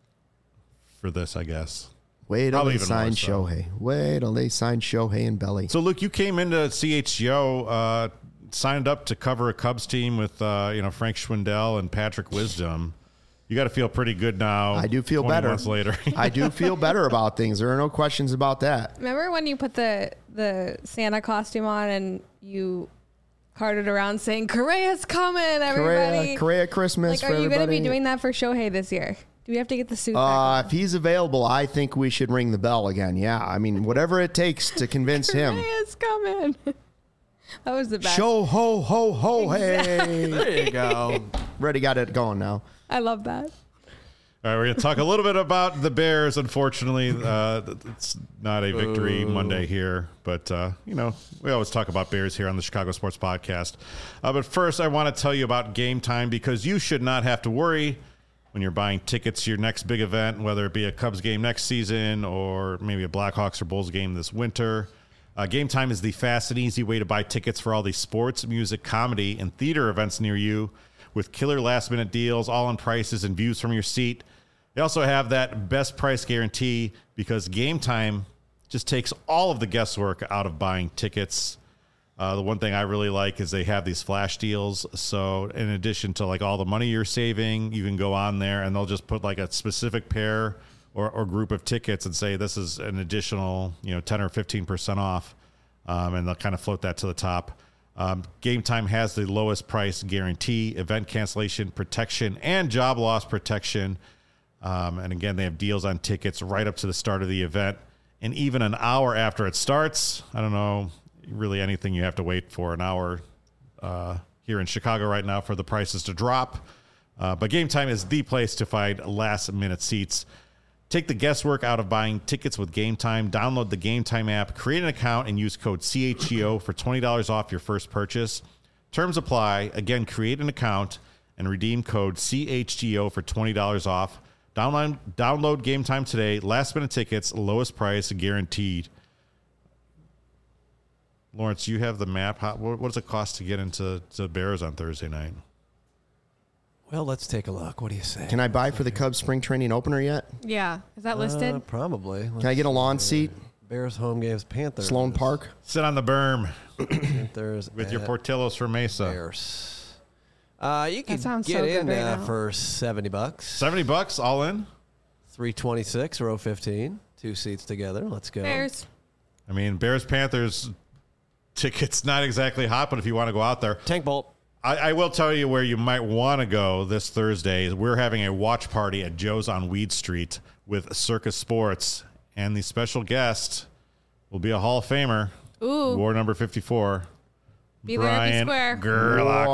for this, I guess. Wait till Probably they even sign more so. Shohei. Wait till they sign Shohei and Belly. So, Luke, you came into C H G O, uh, signed up to cover a Cubs team with uh, you know Frank Schwindel and Patrick Wisdom. You got to feel pretty good now. I do feel twenty better. Months later, I do feel better about things. There are no questions about that. Remember when you put the the Santa costume on and you carted around saying "Correa's coming, everybody"? Correa, Correa Christmas Like, for are you going to everybody. be doing that for Shohei this year? Do we have to get the suit? Uh, back if he's available, I think we should ring the bell again. Yeah, I mean, whatever it takes to convince him. Correa's coming. That was the best. Show ho ho ho hey. There you go. Already got it going now. I love that. all right, we're going to talk a little bit about the Bears. Unfortunately, uh, it's not a victory Monday here, but uh, you know we always talk about Bears here on the Chicago Sports Podcast. Uh, but first, I want to tell you about Game Time because you should not have to worry when you're buying tickets to your next big event, whether it be a Cubs game next season or maybe a Blackhawks or Bulls game this winter. Uh, Game Time is the fast and easy way to buy tickets for all the sports, music, comedy, and theater events near you with killer last-minute deals, all-in prices, and views from your seat. They also have that best price guarantee because Game Time just takes all of the guesswork out of buying tickets. Uh, the one thing I really like is they have these flash deals. So in addition to like all the money you're saving, you can go on there and they'll just put like a specific pair or, or group of tickets and say this is an additional, you know, ten or fifteen percent off. Um, and they'll kind of float that to the top. Um, Game Time has the lowest price guarantee, event cancellation protection, and job loss protection. Um, and again, they have deals on tickets right up to the start of the event. And even an hour after it starts, I don't know really anything you have to wait for an hour uh, here in Chicago right now for the prices to drop. Uh, but Game Time is the place to find last-minute seats. Take the guesswork out of buying tickets with Game Time. Download the Game Time app, create an account, and use code C H G O for twenty dollars off your first purchase. Terms apply. Again, create an account and redeem code C H G O for twenty dollars off. Download, download Game Time today. Last-minute tickets, lowest price guaranteed. Lawrence, you have the map. How, what, what does it cost to get into to Bears on Thursday night? Well, let's take a look. What do you say? Can I buy for the Cubs spring training opener yet? Yeah. Is that Uh, listed? probably. Can I get a lawn seat? Bears home games, Panthers. Sloan Park? Sit on the berm Panthers with your at Portillos for Mesa. Bears. Uh, you can sounds get so in good right uh, now. for seventy bucks. seventy bucks all in? three twenty-six, row fifteen. Two seats together. Let's go. Bears. I mean, Bears Panthers tickets not exactly hot, but if you want to go out there, Tank Bolt. I, I will tell you where you might want to go this Thursday. Is we're having a watch party at Joe's on Weed Street with Circus Sports, and the special guest will be a Hall of Famer. Ooh. War number fifty-four. Be there, be Brian square. Gerlacher.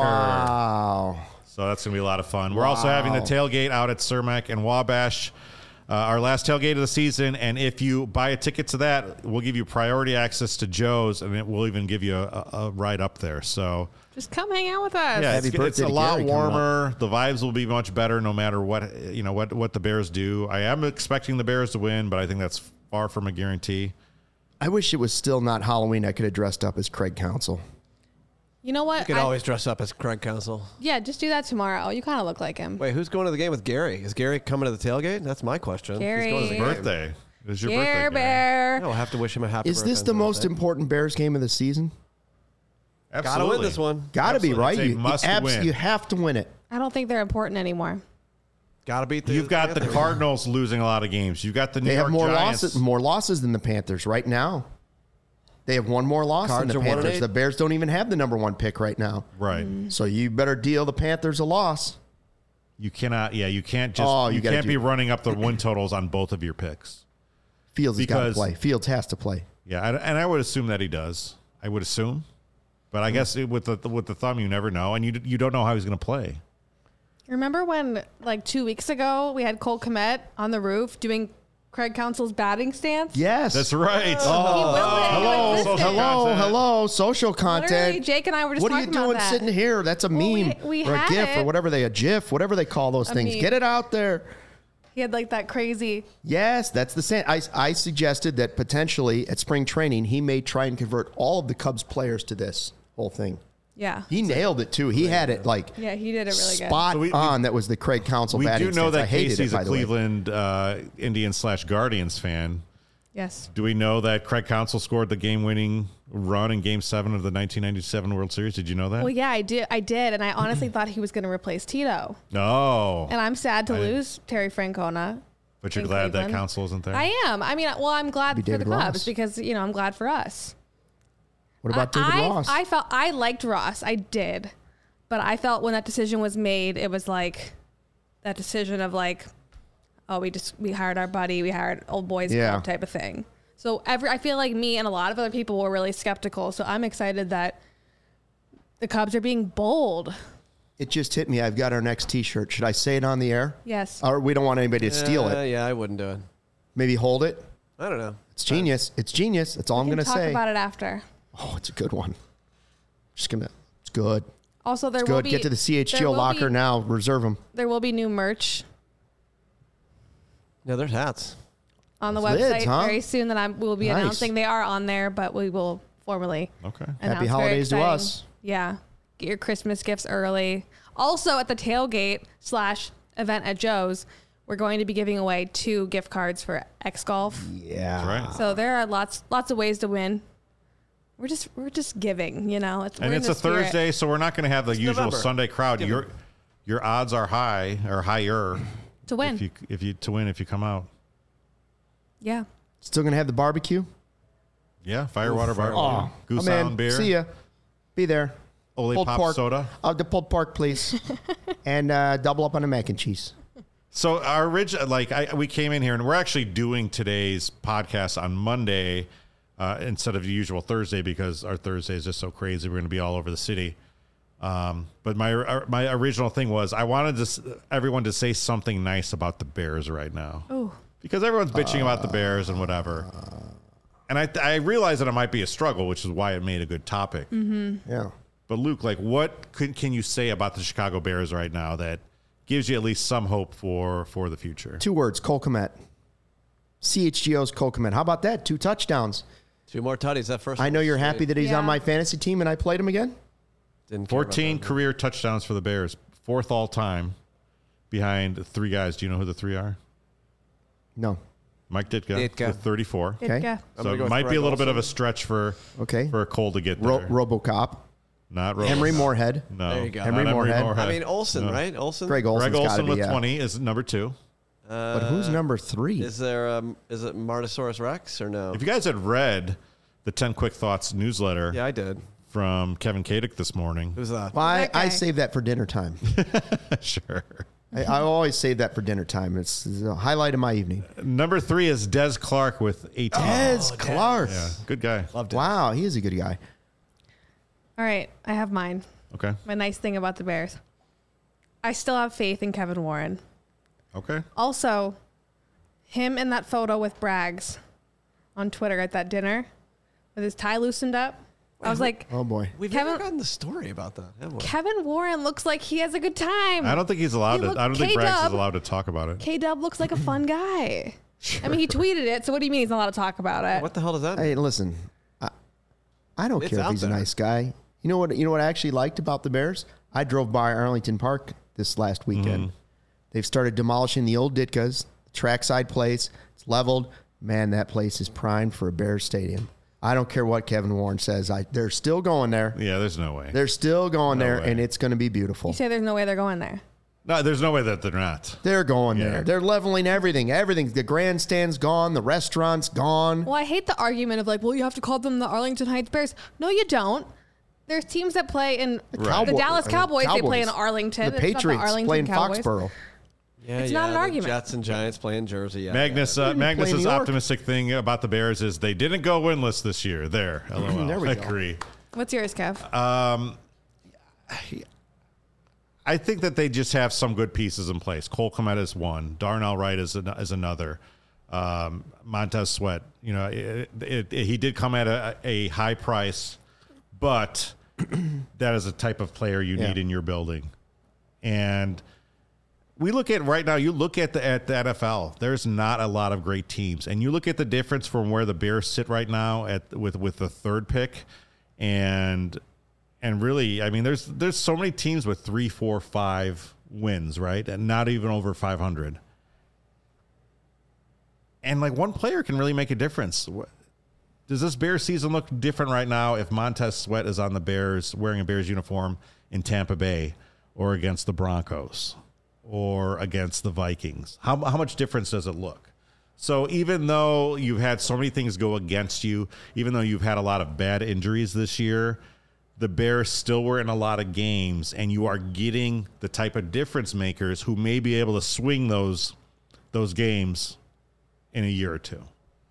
Wow. So that's going to be a lot of fun. We're also having the Wow. tailgate out at Cermak and Wabash, uh, our last tailgate of the season. And if you buy a ticket to that, we'll give you priority access to Joe's, and it will even give you a, a ride up there. So Just come hang out with us. yeah, Happy it's, birthday it's a to lot Gary coming up. warmer. The vibes will be much better no matter what you know what what the Bears do. I am expecting the Bears to win, but I think that's far from a guarantee. I wish it was still not Halloween. I could have dressed up as Craig Counsell. You know what? You could I- always dress up as Craig Counsell. yeah, just do that tomorrow. You kind of look like him. Wait, who's going to the game with Gary? Is Gary coming to the tailgate? That's my question. Gary. He's going to the game. Birthday. It was your Care birthday. Gary. Bear. No, I'll have to wish him a happy Is birthday. this the on most birthday. important Bears game of the season? Gotta Absolutely. win this one. Got to be, Absolutely. right? It's a You, you, must abs- win. you have to win it. I don't think they're important anymore. Gotta beat the You've got the Panthers. Cardinals losing a lot of games. You've got the New They York have more Giants. losses, more losses than the Panthers right now. They have one more loss Cards than are the one and Panthers. eight. The Bears don't even have the number one pick right now. Right. So you better deal the Panthers a loss. You cannot. Yeah, you can't just. Oh, you you gotta can't do- be running up the win totals on both of your picks. Fields has got to Because- play. Fields has to play. Yeah, and and I would assume that he does. I would assume, but I guess it, with the with the thumb, you never know, and you you don't know how he's going to play. Remember when, like two weeks ago, we had Cole Kmet on the roof doing Craig Counsell's batting stance? Yes. That's right. He willed it into Hello, existence. social hello, content. hello, social content. Literally, Jake and I were just what are you talking about doing that. sitting here? That's a Well, we- meme we or a had GIF or it. whatever they a GIF, whatever they call those A things. meme. Get it out there. He had like that crazy. Yes, that's the same. I, I suggested that potentially at spring training he may try and convert all of the Cubs players to this whole thing. Yeah. He nailed it too. He had it like Yeah, he did it really good. spot So we- we- on. That was the Craig Counsell We batting do know stance. I that hated Casey's it, by a the way. Cleveland uh, Indians slash Guardians fan. Yes. Do we know that Craig Counsell scored the game-winning run in Game Seven of the nineteen ninety-seven World Series? Did you know that? Well, yeah, I did. I did, and I honestly thought he was going to replace Tito. No. And I'm sad to I- lose Terry Francona. But you're in glad that Cleveland. Counsell isn't there. I am. I mean, well, I'm glad Be for the David Cubs Ross. because you know I'm glad for us. What about David I, Ross? I felt I liked Ross. I did, but I felt when that decision was made, it was like that decision of like, oh, we just we hired our buddy, we hired old boys Yeah. club type of thing. So every I feel like me and a lot of other people were really skeptical. So I'm excited that the Cubs are being bold. it just hit me. I've got our next T-shirt. Should I say it on the air? Yes. Or we don't want anybody to steal Uh, it. Yeah, I wouldn't do it. Maybe hold it. I don't know. It's genius. It's genius. That's all I'm we going can to talk say. about it after. Oh, it's a good one. Just gonna. It's good. Also, there It's will good. be Get to the C H G there O will locker be- now. Reserve them. There will be new merch No, there's hats. on the Lids, website huh? very soon that I will be Nice. announcing. They are on there, but we will formally Okay. announce. Happy Very holidays to exciting. us. Yeah, get your Christmas gifts early. Also, at the tailgate slash event at Joe's, we're going to be giving away two gift cards for X Golf. Yeah. That's right. So there are lots lots of ways to win. We're just we're just giving, you know. It's, And we're it's in a the spirit. Thursday, so we're not going to have the usual November. Sunday crowd. Give Your your odds are high or higher to win. if you if you to win if you come out. yeah. Still gonna have the barbecue. Yeah, Firewater Bar, Oh, Goose I'm in. Island beer, See ya. Be there. Ole Pulled Pop pork. soda. Uh, the pulled pork, please, and uh, double up on the mac and cheese. So our original, like I, we came in here and we're actually doing today's podcast on Monday uh, instead of the usual Thursday because our Thursday is just so crazy. We're going to be all over the city. Um, but my our, my original thing was I wanted to, s- everyone to say something nice about the Bears right now. Oh. Because everyone's bitching about the Bears and whatever. And I I realized that it might be a struggle, which is why it made a good topic. Yeah. But Luke, like, what could, can you say about the Chicago Bears right now that gives you at least some hope for for the future? Two words: Cole Kmet. C H G O's Cole Kmet. How about that? Two touchdowns. Two more tutties. That first. I one know was you're sweet. happy that he's Yeah. on my fantasy team and I played him again. Didn't care about fourteen that. career touchdowns for the Bears, fourth all time, behind three guys. Do you know who the three are? No. Mike Ditka, Ditka. with thirty-four. Okay. Ditka. I'm So gonna it go with might be a Greg little bit of a Olsen. stretch for Okay. for Cole to get there. Ro- RoboCop. Not Ro- Henry Moorhead. No, There you go. not Henry Moorhead. I mean Olsen, No. right? Olsen. Greg Olsen's Greg got to Olsen be. with Yeah. twenty is number two. Uh, But who's number three? Is there? Um, is it Martosaurus Rex or no? If you guys had read the ten Quick Thoughts newsletter, Yeah, I did. from Kevin Kadick this morning. Who's that? Well, I, That guy. I save that for dinner time. Sure. I, I always save that for dinner time. It's, it's a highlight of my evening. Number three is Des Clark with eighteen. Des Clark. Yeah, good guy. Loved it. Wow, he is a good guy. All right, I have mine. Okay. My nice thing about the Bears. I still have faith in Kevin Warren. Okay. Also, him in that photo with Braggs on Twitter at that dinner with his tie loosened up. I was like, Oh, boy. We've Kevin- never gotten the story about that, have we? Kevin Warren looks like he has a good time. I don't think he's allowed He to. look- I don't think Braggs K-Dub. is allowed to talk about it. K-Dub looks like a fun guy. I mean, he tweeted it, so what do you mean he's not allowed to talk about it? What the hell does that mean? Hey, listen, I, I don't It's care if out he's there. a nice guy. You know what? You know what I actually liked about the Bears? I drove by Arlington Park this last weekend. Mm-hmm. They've started demolishing the old Ditkas, the trackside place. It's leveled. Man, that place is primed for a Bears stadium. I don't care what Kevin Warren says. I, they're still going there. Yeah, there's no way. They're still going No there, way. and it's going to be beautiful. You say there's no way they're going there. No, there's no way that they're not. They're going Yeah. there. They're leveling everything. Everything. The grandstand's gone. The restaurant's gone. Well, I hate the argument of like, well, you have to call them the Arlington Heights Bears. No, you don't. There's teams that play in the Cowboy- Dallas I mean, Cowboys. They play in Cowboys. Arlington. The It's not Patriots Arlington play in Cowboys. Foxborough. Yeah, It's yeah, not an the argument. Jets and Giants play in Jersey. Yeah, Magnus, yeah, uh, They play in Magnus's New York. optimistic thing about the Bears is they didn't go winless this year. There, LOL. There we I go. agree. What's yours, Kev? I think that they just have some good pieces in place. Cole Kmet is one. Darnell Wright is an, is another. Um, Montez Sweat. You know, it, it, it, he did come at a, a high price, but that is a type of player you Yeah. need in your building. And we look at right now. You look at the at the N F L. There's not a lot of great teams, and you look at the difference from where the Bears sit right now at with with the third pick, and and really, I mean, there's there's so many teams with three, four, five wins, right, and not even over five hundred. And like one player can really make a difference. What- Does this Bears season look different right now if Montez Sweat is on the Bears wearing a Bears uniform in Tampa Bay or against the Broncos or against the Vikings? How, how much difference does it look? So even though you've had so many things go against you, even though you've had a lot of bad injuries this year, the Bears still were in a lot of games, and you are getting the type of difference makers who may be able to swing those those games in a year or two.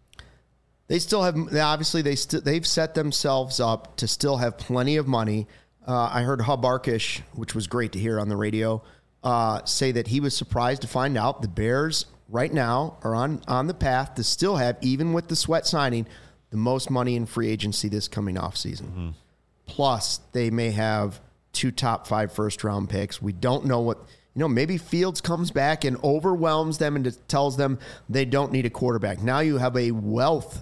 They still have, obviously, they st- they've set themselves up to still have plenty of money. Uh, I heard Hub Arkish, which was great to hear on the radio, uh, say that he was surprised to find out the Bears right now are on, on the path to still have, even with the Sweat signing, the most money in free agency this coming offseason. Mm-hmm. Plus, they may have two top five first round picks. We don't know what, you know, maybe Fields comes back and overwhelms them and just tells them they don't need a quarterback. Now you have a wealth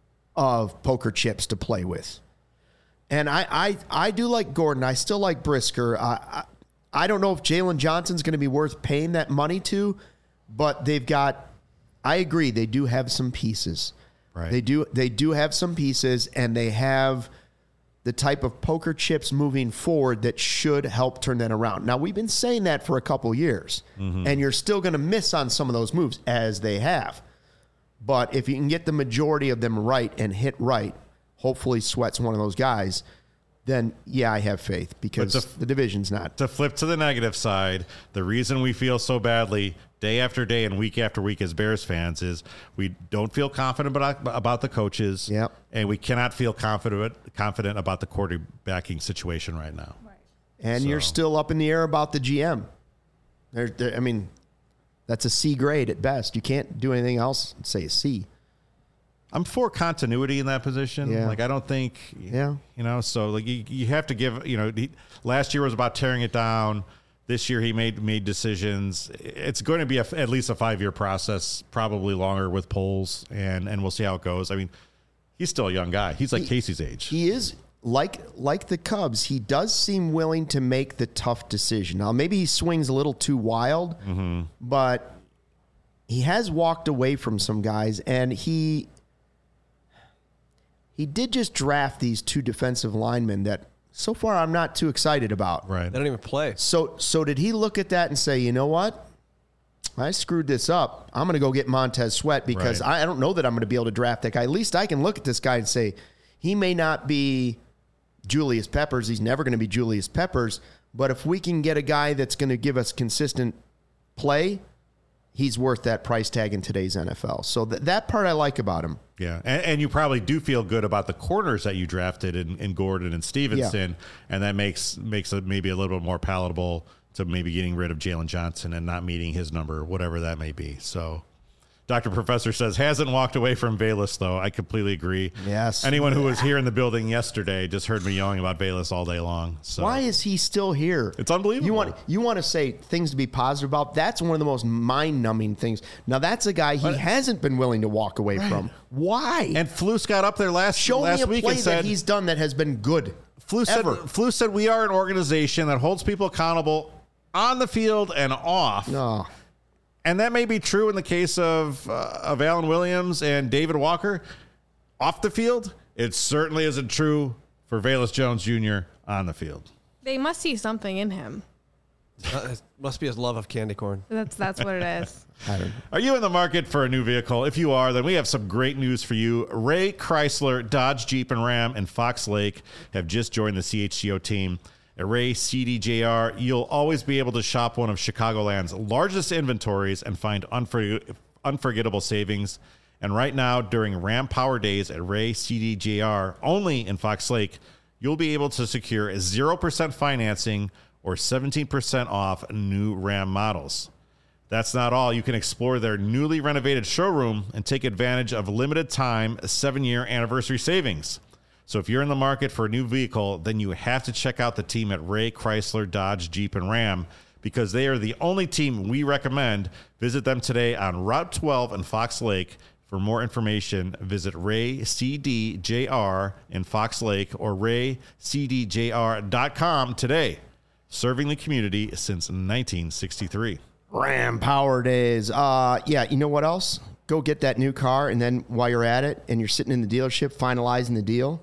of poker chips to play with. And I I, I do like Gordon. I still like Brisker. I, I, I don't know if Jalen Johnson's going to be worth paying that money to, but they've got, I agree, they do have some pieces. Right. They do they do have some pieces, and they have the type of poker chips moving forward that should help turn that around. Now, we've been saying that for a couple years, Mm-hmm. and you're still going to miss on some of those moves, as they have. But if you can get the majority of them right and hit right, hopefully Sweat's one of those guys, then, yeah, I have faith because But the- the division's not. To flip to the negative side, the reason we feel so badly day after day and week after week as Bears fans is we don't feel confident about, about the coaches, Yep. and we cannot feel confident confident about the quarterbacking situation right now. And you're So- still up in the air about the G M. There, there, I mean, that's a C grade at best. You can't do anything else and say a C. I'm for continuity in that position. Yeah. Like I don't think, Yeah. you know. So like you, you have to give. You know, he, last year was about tearing it down. This year he made made decisions. It's going to be a, at least a five year process, probably longer with polls, and and we'll see how it goes. I mean, he's still a young guy. He's like He- Casey's age. He is like like the Cubs. He does seem willing to make the tough decision. Now, maybe he swings a little too wild, Mm-hmm. but he has walked away from some guys, and he he did just draft these two defensive linemen that so far I'm not too excited about. Right. They don't even play. So so did he look at that and say, you know what? I screwed this up. I'm going to go get Montez Sweat because Right. I, I don't know that I'm going to be able to draft that guy. At least I can look at this guy and say he may not be Julius Peppers. He's never going to be Julius Peppers. But if we can get a guy that's going to give us consistent play, he's worth that price tag in today's N F L. So th- that part I like about him. Yeah, and, and you probably do feel good about the corners that you drafted in, in Gordon and Stevenson, yeah. and that makes makes it maybe a little bit more palatable to maybe getting rid of Jalen Johnson and not meeting his number, whatever that may be. So Doctor Professor says, hasn't walked away from Bayless, though. I completely agree. Yes. Anyone who was here in the building yesterday just heard me yelling about Bayless all day long. So why is he still here? It's unbelievable. You want you want to say things to be positive about? That's one of the most mind-numbing things. Now, that's a guy he but, hasn't been willing to walk away right. from. Why? And Flus got up there last, Show last me a week play and said, that he's done that has been good. Flus said, Flus said, we are an organization that holds people accountable on the field and off. Oh. And that may be true in the case of uh, of Alan Williams and David Walker off the field. It certainly isn't true for Velus Jones Junior on the field. They must see something in him. Uh, it must be his love of candy corn. That's that's what it is. I don't know. Are you in the market for a new vehicle? If you are, then we have some great news for you. Ray Chrysler, Dodge, Jeep, and Ram in Fox Lake have just joined the C H G O team. At Ray C D J R, you'll always be able to shop one of Chicagoland's largest inventories and find unfor- unforgettable savings. And right now, during Ram Power Days at Ray C D J R, only in Fox Lake, you'll be able to secure zero percent financing or seventeen percent off new Ram models. That's not all. You can explore their newly renovated showroom and take advantage of limited time seven-year anniversary savings. So if you're in the market for a new vehicle, then you have to check out the team at Ray Chrysler, Dodge, Jeep, and Ram because they are the only team we recommend. Visit them today on Route twelve in Fox Lake. For more information, visit Ray C D J R in Fox Lake or ray c d j r dot com today. Serving the community since nineteen sixty-three. Ram Power Days. Uh, yeah, you know what else? Go get that new car, and then while you're at it and you're sitting in the dealership finalizing the deal,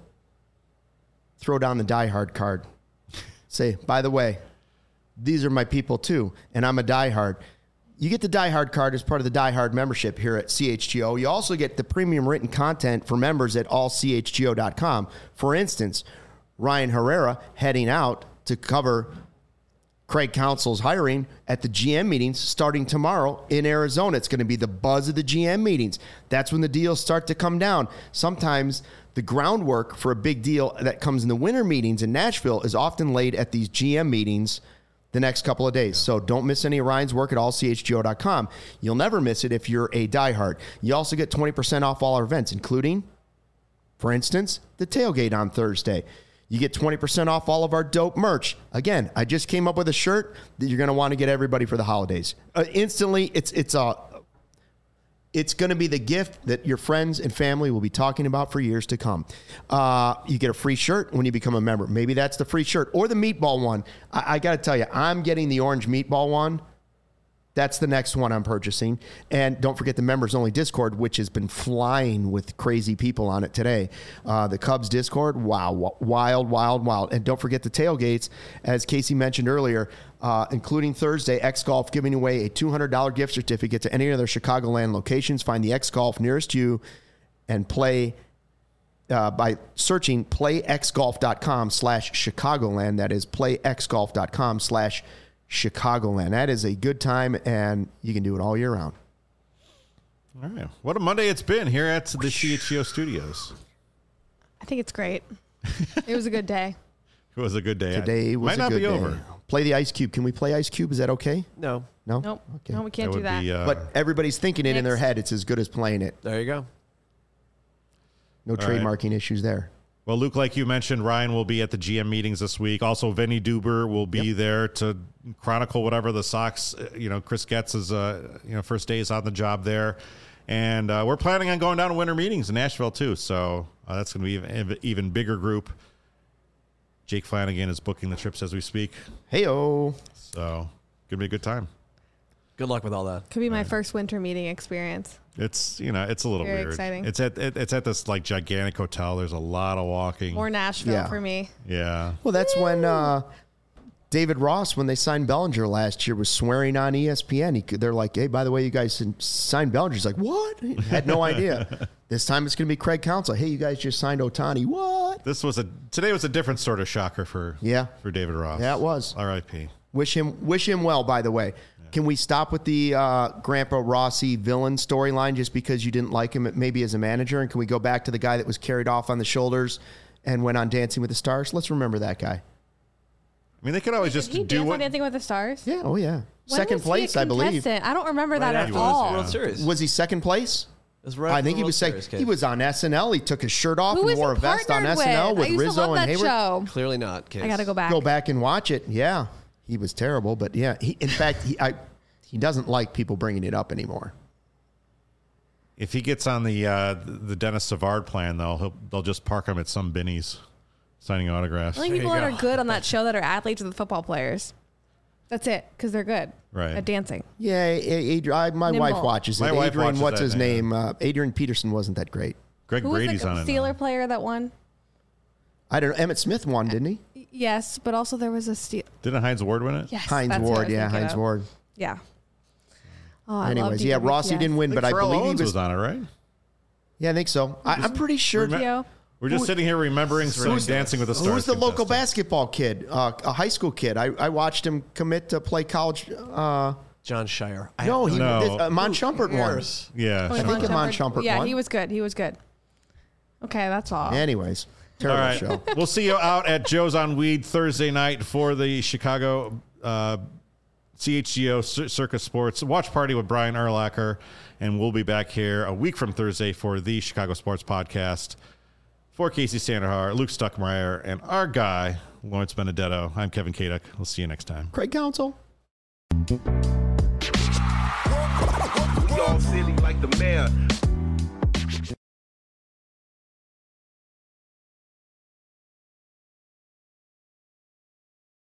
throw down the Die Hard card. Say, by the way, these are my people too, and I'm a Die Hard. You get the Die Hard card as part of the Die Hard membership here at C H G O. You also get the premium written content for members at all c h g o dot com. For instance, Ryan Herrera heading out to cover Craig Counsell's hiring at the G M meetings starting tomorrow in Arizona. It's going to be the buzz of the G M meetings. That's when the deals start to come down. Sometimes the groundwork for a big deal that comes in the winter meetings in Nashville is often laid at these G M meetings the next couple of days. So don't miss any of Ryan's work at all c h g o dot com. You'll never miss it if you're a diehard. You also get twenty percent off all our events, including, for instance, the tailgate on Thursday. You get twenty percent off all of our dope merch. Again, I just came up with a shirt that you're going to want to get everybody for the holidays. Uh, instantly, it's it's a it's going to be the gift that your friends and family will be talking about for years to come. Uh, you get a free shirt when you become a member. Maybe that's the free shirt or the meatball one. I, I got to tell you, I'm getting the orange meatball one. That's the next one I'm purchasing. And don't forget the members-only Discord, which has been flying with crazy people on it today. Uh, the Cubs Discord, wow, wild, wild, wild. And don't forget the tailgates, as Casey mentioned earlier, uh, including Thursday, X-Golf giving away a two hundred dollars gift certificate to any of their Chicagoland locations. Find the X-Golf nearest you and play uh, by searching playxgolf.com slash Chicagoland. That is playxgolf.com slash Chicagoland. That is a good time, and you can do it all year round. All right. What a Monday it's been here at the C H G O studios. I think it's great. It was a good day. It was a good day. Today was Might a not good be day. over. Play the Ice Cube. Can we play Ice Cube? Is that okay? No. No? Nope. Okay. No, we can't That do would that. be, uh, But everybody's thinking it in their Next. head. It's as good as playing it. There you go. No right. trademarking issues there. Well, Luke, like you mentioned, Ryan will be at the G M meetings this week. Also, Vinny Duber will be Yep. there to chronicle whatever the Sox, uh, you know, Chris Getz's, uh, you know, first days on the job there. And uh, we're planning on going down to winter meetings in Nashville, too. So uh, that's going to be an even bigger group. Jake Flanagan is booking the trips as we speak. Hey-o. So going to be a good time. Good luck with all that. Could be my first winter meeting experience. It's, you know, it's a little Very weird. exciting. It's at it, it's at this like gigantic hotel. There's a lot of walking. Or Nashville Yeah. for me. Yeah. Well, that's when uh, David Ross, when they signed Bellinger last year, was swearing on E S P N. He, they're like, hey, by the way, you guys signed Bellinger. He's like, what? He had no idea. This time it's going to be Craig Counsell. Hey, you guys just signed Ohtani. What? This was a today was a different sort of shocker for Yeah. for David Ross. Yeah, it was. R I P Wish him wish him well, by the way. Yeah. Can we stop with the uh, Grandpa Rossi villain storyline just because you didn't like him maybe as a manager? And can we go back to the guy that was carried off on the shoulders and went on Dancing with the Stars? Let's remember that guy. I mean, they could always just Did he do dance what. on Dancing with the Stars? Yeah, oh yeah. When second was he place, a I believe. contestant? I don't remember that Right at after all. the World Series. Was he second place? It was right I after think the he World was Series, second. Kate. He was on S N L. He took his shirt off Who and was wore a he vest on partnered S N L with? with I used to Rizzo love and that Hayward. show. Clearly not. Case. I got to go back. Go back and watch it. Yeah, he was terrible, but yeah, he, in fact, he I, he doesn't like people bringing it up anymore. If he gets on the uh, the Dennis Savard plan, though, he'll, they'll just park him at some Binnie's signing autographs. The only people that are good on that show that are athletes are the football players. That's it, because they're good Right. at dancing. Yeah, Adrian, I, my Nimble. wife watches it. My wife Adrian, watches what's that, his yeah. name? Uh, Adrian Peterson wasn't that great. Greg Who was Brady's the on it. now. Steeler player that won? I don't know. Emmett Smith won, didn't he? Yes, but also there was a Steel. Didn't Heinz Ward win it? Yes, Heinz that's who I Ward, was yeah, thinking Heinz of. Ward. Yeah. Oh, I love Anyways, yeah, D W P S. Rossi didn't win, I but think I Pharrell believe Owens he was. was on it, right? Yeah, I think so. I, I'm pretty sure. Remem- Theo? We're just Who- sitting here remembering some Who's the- Dancing with the Stars. Who's the local contestant. basketball kid? Uh, a high school kid. I, I watched him commit to play college. Uh, John Shire. I no, have he No. this, uh, Mon Who Shumpert won. cares? Yeah. Oh, sure. think Iman Shumpert- Shumpert Yeah, won. he was good. He was good. Okay, that's all. Anyways, All terrible right. show. We'll see you out at Joe's on Weed Thursday night for the Chicago uh, C H G O Cir- Circus Sports watch party with Brian Urlacher. And we'll be back here a week from Thursday for the Chicago Sports Podcast. For Casey Sanderhar, Luke Stuckmeyer, and our guy, Lawrence Benedetto, I'm Kevin Kaduk. We'll see you next time. Craig Counsell. We all silly like the mayor.